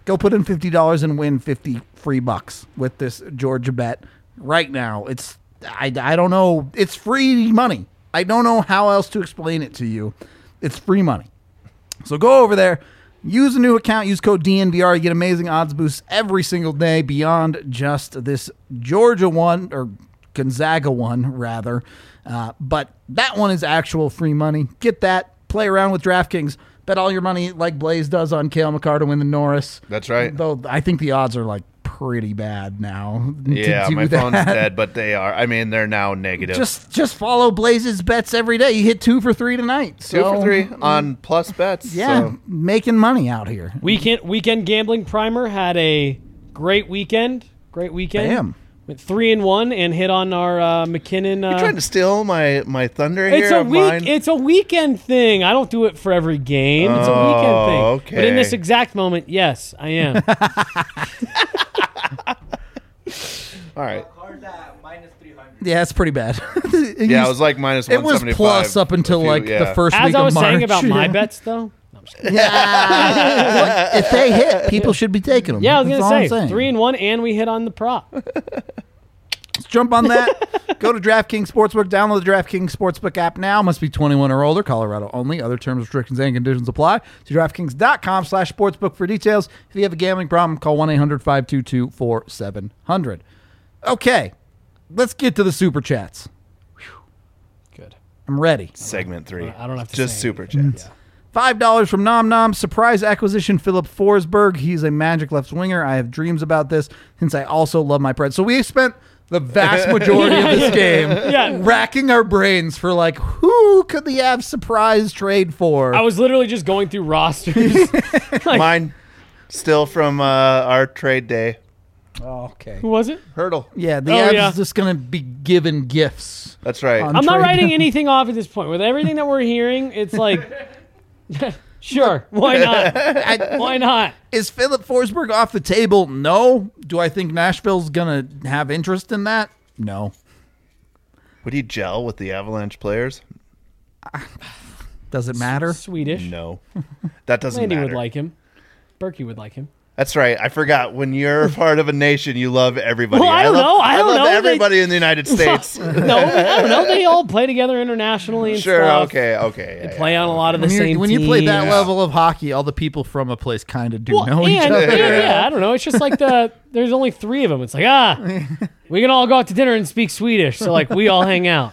Go put in $50 and win 50 free bucks with this Georgia bet right now. I don't know. It's free money. I don't know how else to explain it to you. It's free money. So go over there, use a new account, use code DNVR. You get amazing odds boosts every single day beyond just this Georgia one, or Gonzaga one, rather. But that one is actual free money. Get that. Play around with DraftKings. Bet all your money like Blaze does on Cale Makar to win the Norris. That's right. Though I think the odds are like pretty bad now. Yeah, my phone's dead, but they are. I mean, they're now negative. Just follow Blaze's bets every day. You hit 2 for 3 tonight. 2 for 3 on plus bets. Yeah, so. making money out here. Weekend gambling primer had a great weekend. Damn. Went 3-1 and hit on our McKinnon. You're trying to steal my thunder It's here a of mine? It's a weekend thing. I don't do it for every game. It's a weekend thing. Okay. But in this exact moment, yes, I am. All right. Yeah, it's pretty bad. Yeah, it was like minus 175. It was plus up until the first As week I of was March. saying about my bets, though. No, I'm just kidding. Yeah. Look, if they hit, people should be taking them. Yeah, I was That's all I'm gonna say saying. 3-1, and we hit on the prop. Let's jump on that. Go to DraftKings Sportsbook. Download the DraftKings Sportsbook app now. Must be 21 or older. Colorado only. Other terms, restrictions, and conditions apply. To DraftKings.com/sportsbook for details. If you have a gambling problem, call 1-800-522-4700. Okay, let's get to the Super Chats. Good. I'm ready. Segment 3. I don't have to Just say super anything. chats. $5 from Nom Nom. Surprise acquisition, Philip Forsberg. He's a Magic left winger. I have dreams about this since I also love my Preds. So we spent the vast majority of this game racking our brains for like, who could the Avs surprise trade for? I was literally just going through rosters. Mine still from our trade day. Oh, okay. Who was it? Hurdle. Yeah, the Oh, Avs yeah. is just going to be given gifts. That's right. On I'm not trade. writing anything off at this point. With everything that we're hearing, it's like, sure, why not? Why not? Is Philip Forsberg off the table? No. Do I think Nashville's going to have interest in that? No. Would he gel with the Avalanche players? Does it matter? Swedish. No. That doesn't Landy matter. would like him. Berkey would like him. That's right. I forgot. When you're part of a nation, you love everybody. Well, I don't know. I don't love know. everybody in the United States. No, I don't know. They all play together internationally and Sure. stuff. Okay. They play on a lot of the same When you play that teams. level of hockey, all the people from a place kind of do Well, know each and, other. yeah, I don't know. It's just like there's only 3 of them. It's like, we can all go out to dinner and speak Swedish. So, like, we all hang out.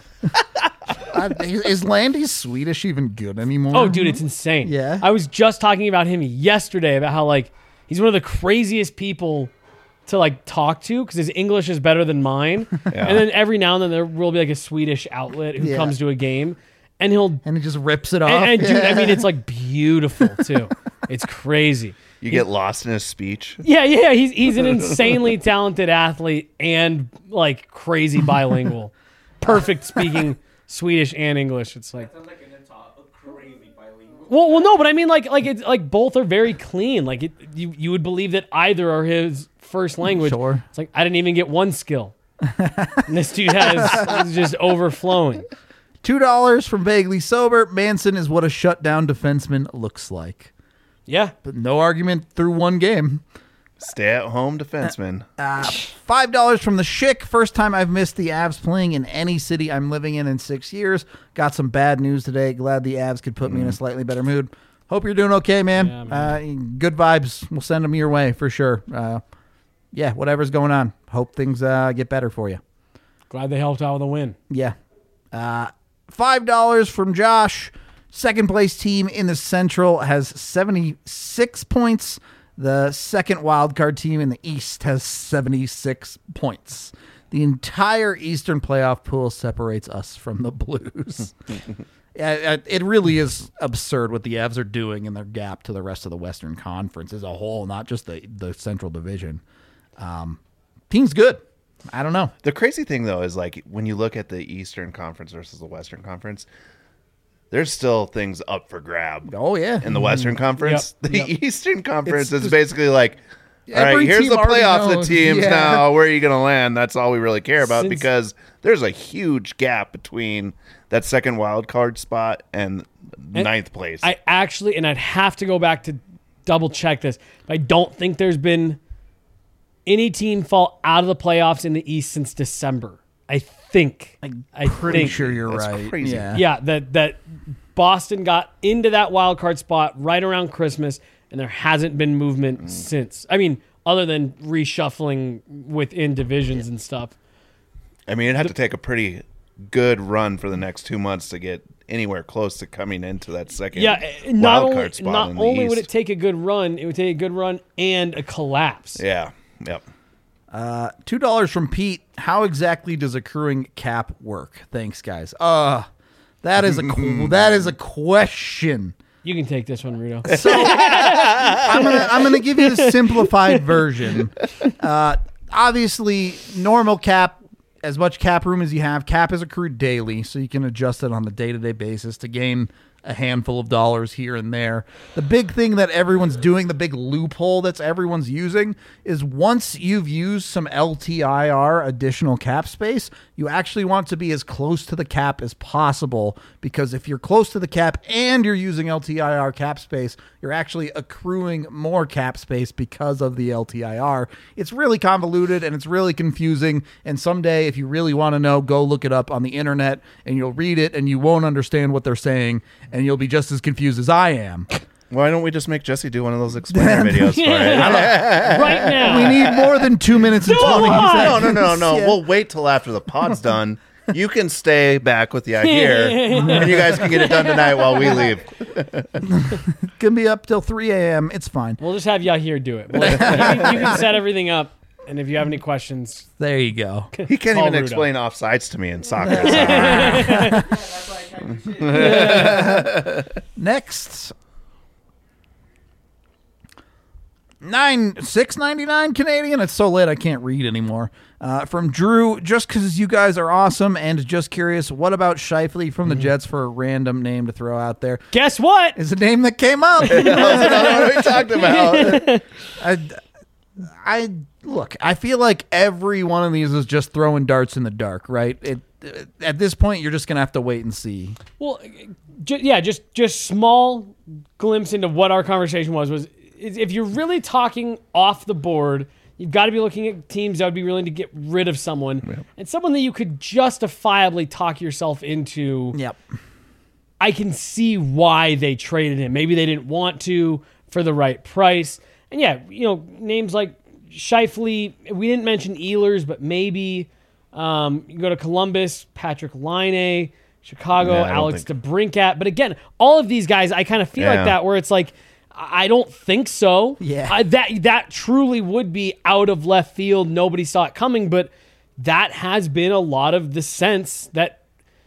Is Landy Swedish even good anymore? Oh, dude, it's insane. Yeah? I was just talking about him yesterday about how, like, he's one of the craziest people to, like, talk to because his English is better than mine. Yeah. And then every now and then there will be, like, a Swedish outlet who Yeah. comes to a game. And he'll... And he just rips it off. And dude, I mean, it's, like, beautiful, too. It's crazy. You get lost in his speech. Yeah. He's an insanely talented athlete and, like, crazy bilingual. Perfect speaking Swedish and English. It's like... Well, no, but I mean, like it's like both are very clean. Like you would believe that either are his first language. Sure. It's like I didn't even get one skill. And this dude is just overflowing. $2 from Vaguely Sober. Manson is what a shutdown defenseman looks like. Yeah. But no argument through one game. Stay-at-home defenseman. $5 from the Schick. First time I've missed the Avs playing in any city I'm living in 6 years. Got some bad news today. Glad the Avs could put me in a slightly better mood. Hope you're doing okay, man. Yeah, Good vibes. We'll send them your way for sure. Yeah, whatever's going on. Hope things get better for you. Glad they helped out with a win. Yeah. $5 from Josh. Second place team in the Central has 76 points. The second wildcard team in the East has 76 points. The entire Eastern playoff pool separates us from the Blues. It really is absurd what the Avs are doing in their gap to the rest of the Western Conference as a whole, not just the Central Division. Team's good. I don't know. The crazy thing, though, is like when you look at the Eastern Conference versus the Western Conference, there's still things up for grab. Oh, yeah. In the Western Conference. Yep. The Eastern Conference It's is basically like, all right, every here's team the already playoffs, the knows. teams Yeah. now. Where are you going to land? That's all we really care about Since- because there's a huge gap between that second wild card spot and ninth place. I actually, and I'd have to go back to double check this. I don't think there's been any team fall out of the playoffs in the East since December. I think. I'm I pretty think. sure you're That's right. crazy. Yeah. Yeah, that Boston got into that wild card spot right around Christmas, and there hasn't been movement since. I mean, other than reshuffling within divisions and stuff. I mean, it'd have to take a pretty good run for the next 2 months to get anywhere close to coming into that second wild card spot not in the only East. would it take a good run, it would take a good run and a collapse. Yeah. Yep. $2 from Pete. How exactly does accruing cap work? Thanks, guys. That is a question. You can take this one, Rudo. So I'm gonna give you the simplified version. Obviously, normal cap, as much cap room as you have, cap is accrued daily, so you can adjust it on a day-to-day basis to gain a handful of dollars here and there. The big thing that everyone's doing, the big loophole that's everyone's using, is once you've used some LTIR additional cap space, you actually want to be as close to the cap as possible, because if you're close to the cap and you're using LTIR cap space, you're actually accruing more cap space because of the LTIR. It's really convoluted and it's really confusing, and someday, if you really want to know, go look it up on the internet and you'll read it and you won't understand what they're saying, and you'll be just as confused as I am. Why don't we just make Jesse do one of those explainer videos for it? Right now. We need more than 2 minutes and 20 why? seconds. No. Yeah. We'll wait till after the pod's done. You can stay back with the idea, and you guys can get it done tonight while we leave. Can be up till 3 a.m. It's fine. We'll just have Yahir do it. You can set everything up, and if you have any questions, There you go. He can't Call even Rudo. explain offsides to me in soccer. Next. $6.99 Canadian. It's so late I can't read anymore. From Drew, just because you guys are awesome and just curious, what about Shifley from the Jets for a random name to throw out there? guess what? Is a name that came up. That's another one we talked about. I look, I feel like every one of these is just throwing darts in the dark, right? At this point, you're just going to have to wait and see. Well, just small glimpse into what our conversation was if you're really talking off the board, you've got to be looking at teams that would be willing to get rid of someone, and someone that you could justifiably talk yourself into. Yep. I can see why they traded him. Maybe they didn't want to for the right price. And yeah, names like Shifley, we didn't mention Ehlers, but maybe you go to Columbus, Patrick Laine, Chicago, Yeah, I don't Alex DeBrincat. But again, all of these guys, I kind of feel like that, where it's like, I don't think so. Yeah. That truly would be out of left field. Nobody saw it coming, but that has been a lot of the sense that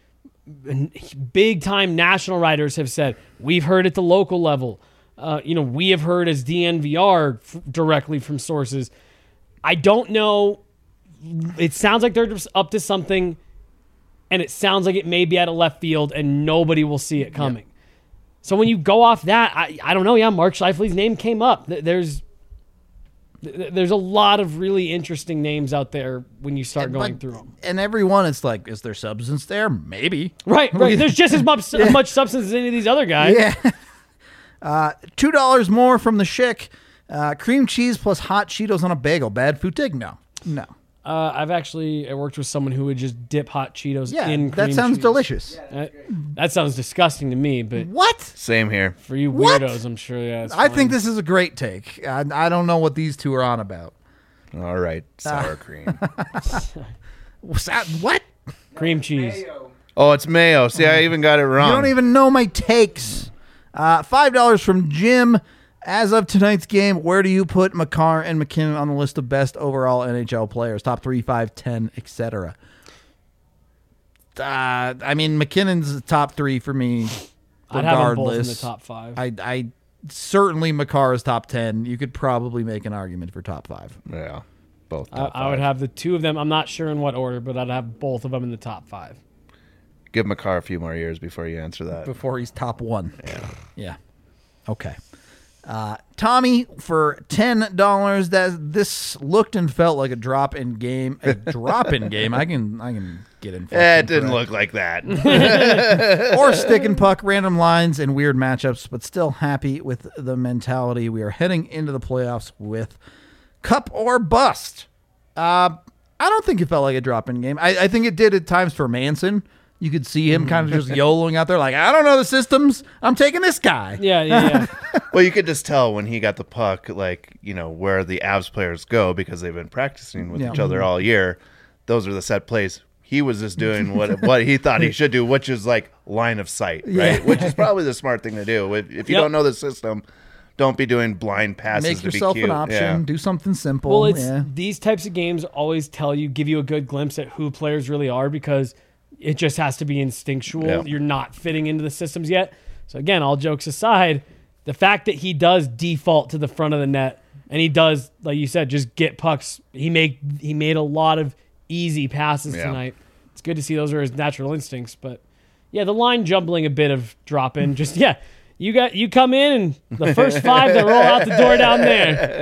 big time national writers have said. We've heard at the local level. We have heard as DNVR directly from sources. I don't know. It sounds like they're just up to something, and it sounds like it may be out of left field, and nobody will see it coming. Yep. So when you go off that, I don't know. Yeah, Mark Shifley's name came up. There's a lot of really interesting names out there when you start going through them. And every one, it's like, is there substance there? Maybe. Right. There's just as much substance as any of these other guys. Yeah. $2 more from the Schick. Cream cheese plus hot Cheetos on a bagel. Bad food take? No. I worked with someone who would just dip hot Cheetos in cream that sounds cheese. delicious. That sounds disgusting to me, but What? Same here. for you What? weirdos, I'm sure. Yeah, it's I fine. think this is a great take. I don't know what these two are on about. All right, sour cream. What? cream cheese. Oh, it's mayo. See, I even got it wrong. You don't even know my takes. $5 from Jim. As of tonight's game, where do you put Makar and McKinnon on the list of best overall NHL players? Top 3, 5, 10, etc. McKinnon's top 3 for me, I'd have them both in regardless. the top 5. I certainly Makar is top 10. You could probably make an argument for top 5. Yeah, both. I would have the two of them. I'm not sure in what order, but I'd have both of them in the top 5. Give Makar a few more years before you answer that. Before he's top 1. Yeah. Okay. Tommy for $10. This looked and felt like a drop in game. A drop in game. I can get in. It didn't look like that. Or stick and puck, random lines and weird matchups, but still happy with the mentality. We are heading into the playoffs with cup or bust. I don't think it felt like a drop in game. I think it did at times for Manson. You could see him kind of just YOLOing out there like, I don't know the systems. I'm taking this guy. Yeah. Well, you could just tell when he got the puck, like, where the Avs players go because they've been practicing with each other all year. Those are the set plays. He was just doing what he thought he should do, which is like line of sight, right? Yeah. Which is probably the smart thing to do. If you don't know the system, don't be doing blind passes. Make to be yourself cute. an option. Yeah. Do something simple. Well, it's these types of games always give you a good glimpse at who players really are because it just has to be instinctual. Yeah. You're not fitting into the systems yet. So again, all jokes aside, the fact that he does default to the front of the net and he does, like you said, just get pucks. He made a lot of easy passes tonight. It's good to see those are his natural instincts. But yeah, the line jumbling a bit of drop in. Just you come in and the first 5 that roll out the door down there.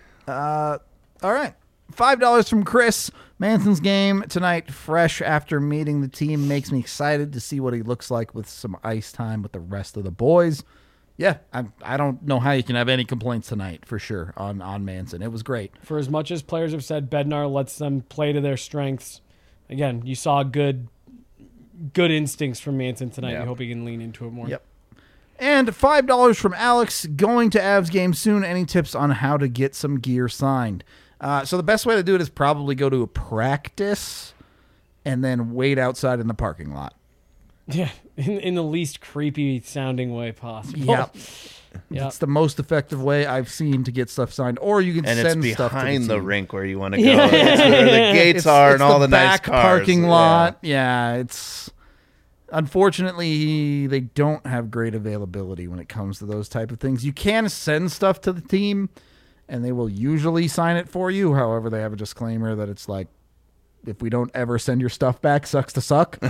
All right. $5 from Chris. Manson's game tonight, fresh after meeting the team, makes me excited to see what he looks like with some ice time with the rest of the boys. Yeah, I don't know how you can have any complaints tonight, for sure, on Manson. It was great. For as much as players have said Bednar lets them play to their strengths, again, you saw good instincts from Manson tonight. Yeah. I hope he can lean into it more. Yep. And $5 from Alex, going to Avs game soon. Any tips on how to get some gear signed? So the best way to do it is probably go to a practice and then wait outside in the parking lot. Yeah, in the least creepy sounding way possible. Yep. Yep. It's the most effective way I've seen to get stuff signed. Or you can And send it's stuff to behind the the team. rink where you want to go. It's where the gates are and all the nice back cars. parking lot. Yeah, it's unfortunately they don't have great availability when it comes to those type of things. You can send stuff to the team, and they will usually sign it for you. However, they have a disclaimer that it's like, if we don't ever send your stuff back, sucks to suck.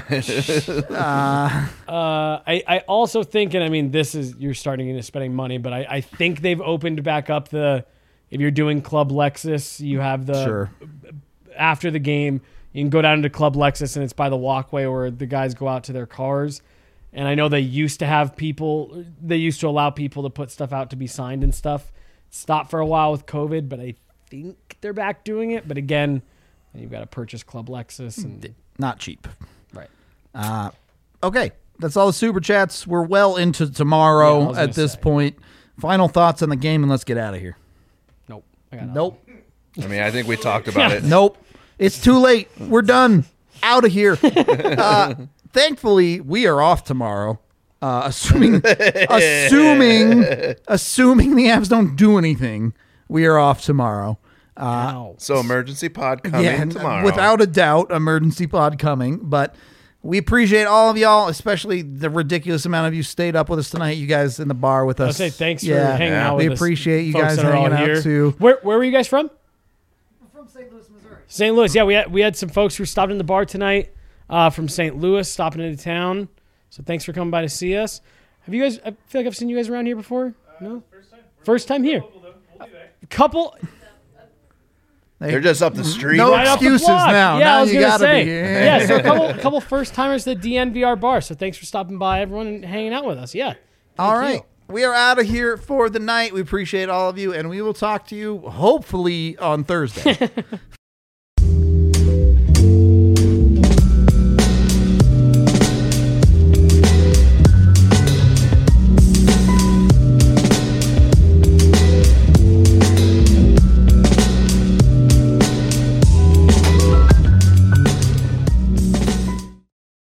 I also think, and I mean, you're starting into spending money, but I think they've opened back up if you're doing Club Lexus, you have Sure. after the game, you can go down to Club Lexus and it's by the walkway where the guys go out to their cars. And I know they used to allow people to put stuff out to be signed and stuff. Stopped for a while with COVID, but I think they're back doing it. But again, you've got to purchase Club Lexus. And Not cheap. right. Okay, that's all the super chats. We're well into Yeah, I tomorrow was at gonna this say. point. Final thoughts on the game, and let's get out of here. Nope. I got Nope. I mean, I think we talked about it. Nope. It's too late. We're done. Out of here. Thankfully, we are off tomorrow. Assuming the Avs don't do anything, we are off tomorrow. Ow. So emergency pod coming tomorrow. Without a doubt, emergency pod coming. But we appreciate all of y'all, especially the ridiculous amount of you stayed up with us tonight. You guys in the bar with us. I'll say thanks for hanging out with We us. appreciate you folks guys that are all hanging out here. too. Where were you guys from? From St. Louis, Missouri. St. Louis. Yeah, we had some folks who stopped in the bar tonight from St. Louis, stopping into town. So thanks for coming by to see us. Have you guys? I feel like I've seen you guys around here before. No, first time here. Couple. They're just up the street. No Right off the excuses block. now. Yeah, Now I was you gonna gotta say. be here. Yeah, so a couple first timers to the DNVR bar. So thanks for stopping by, everyone, and hanging out with us. Yeah. All Thank right. you. We are out of here for the night. We appreciate all of you, and we will talk to you hopefully on Thursday.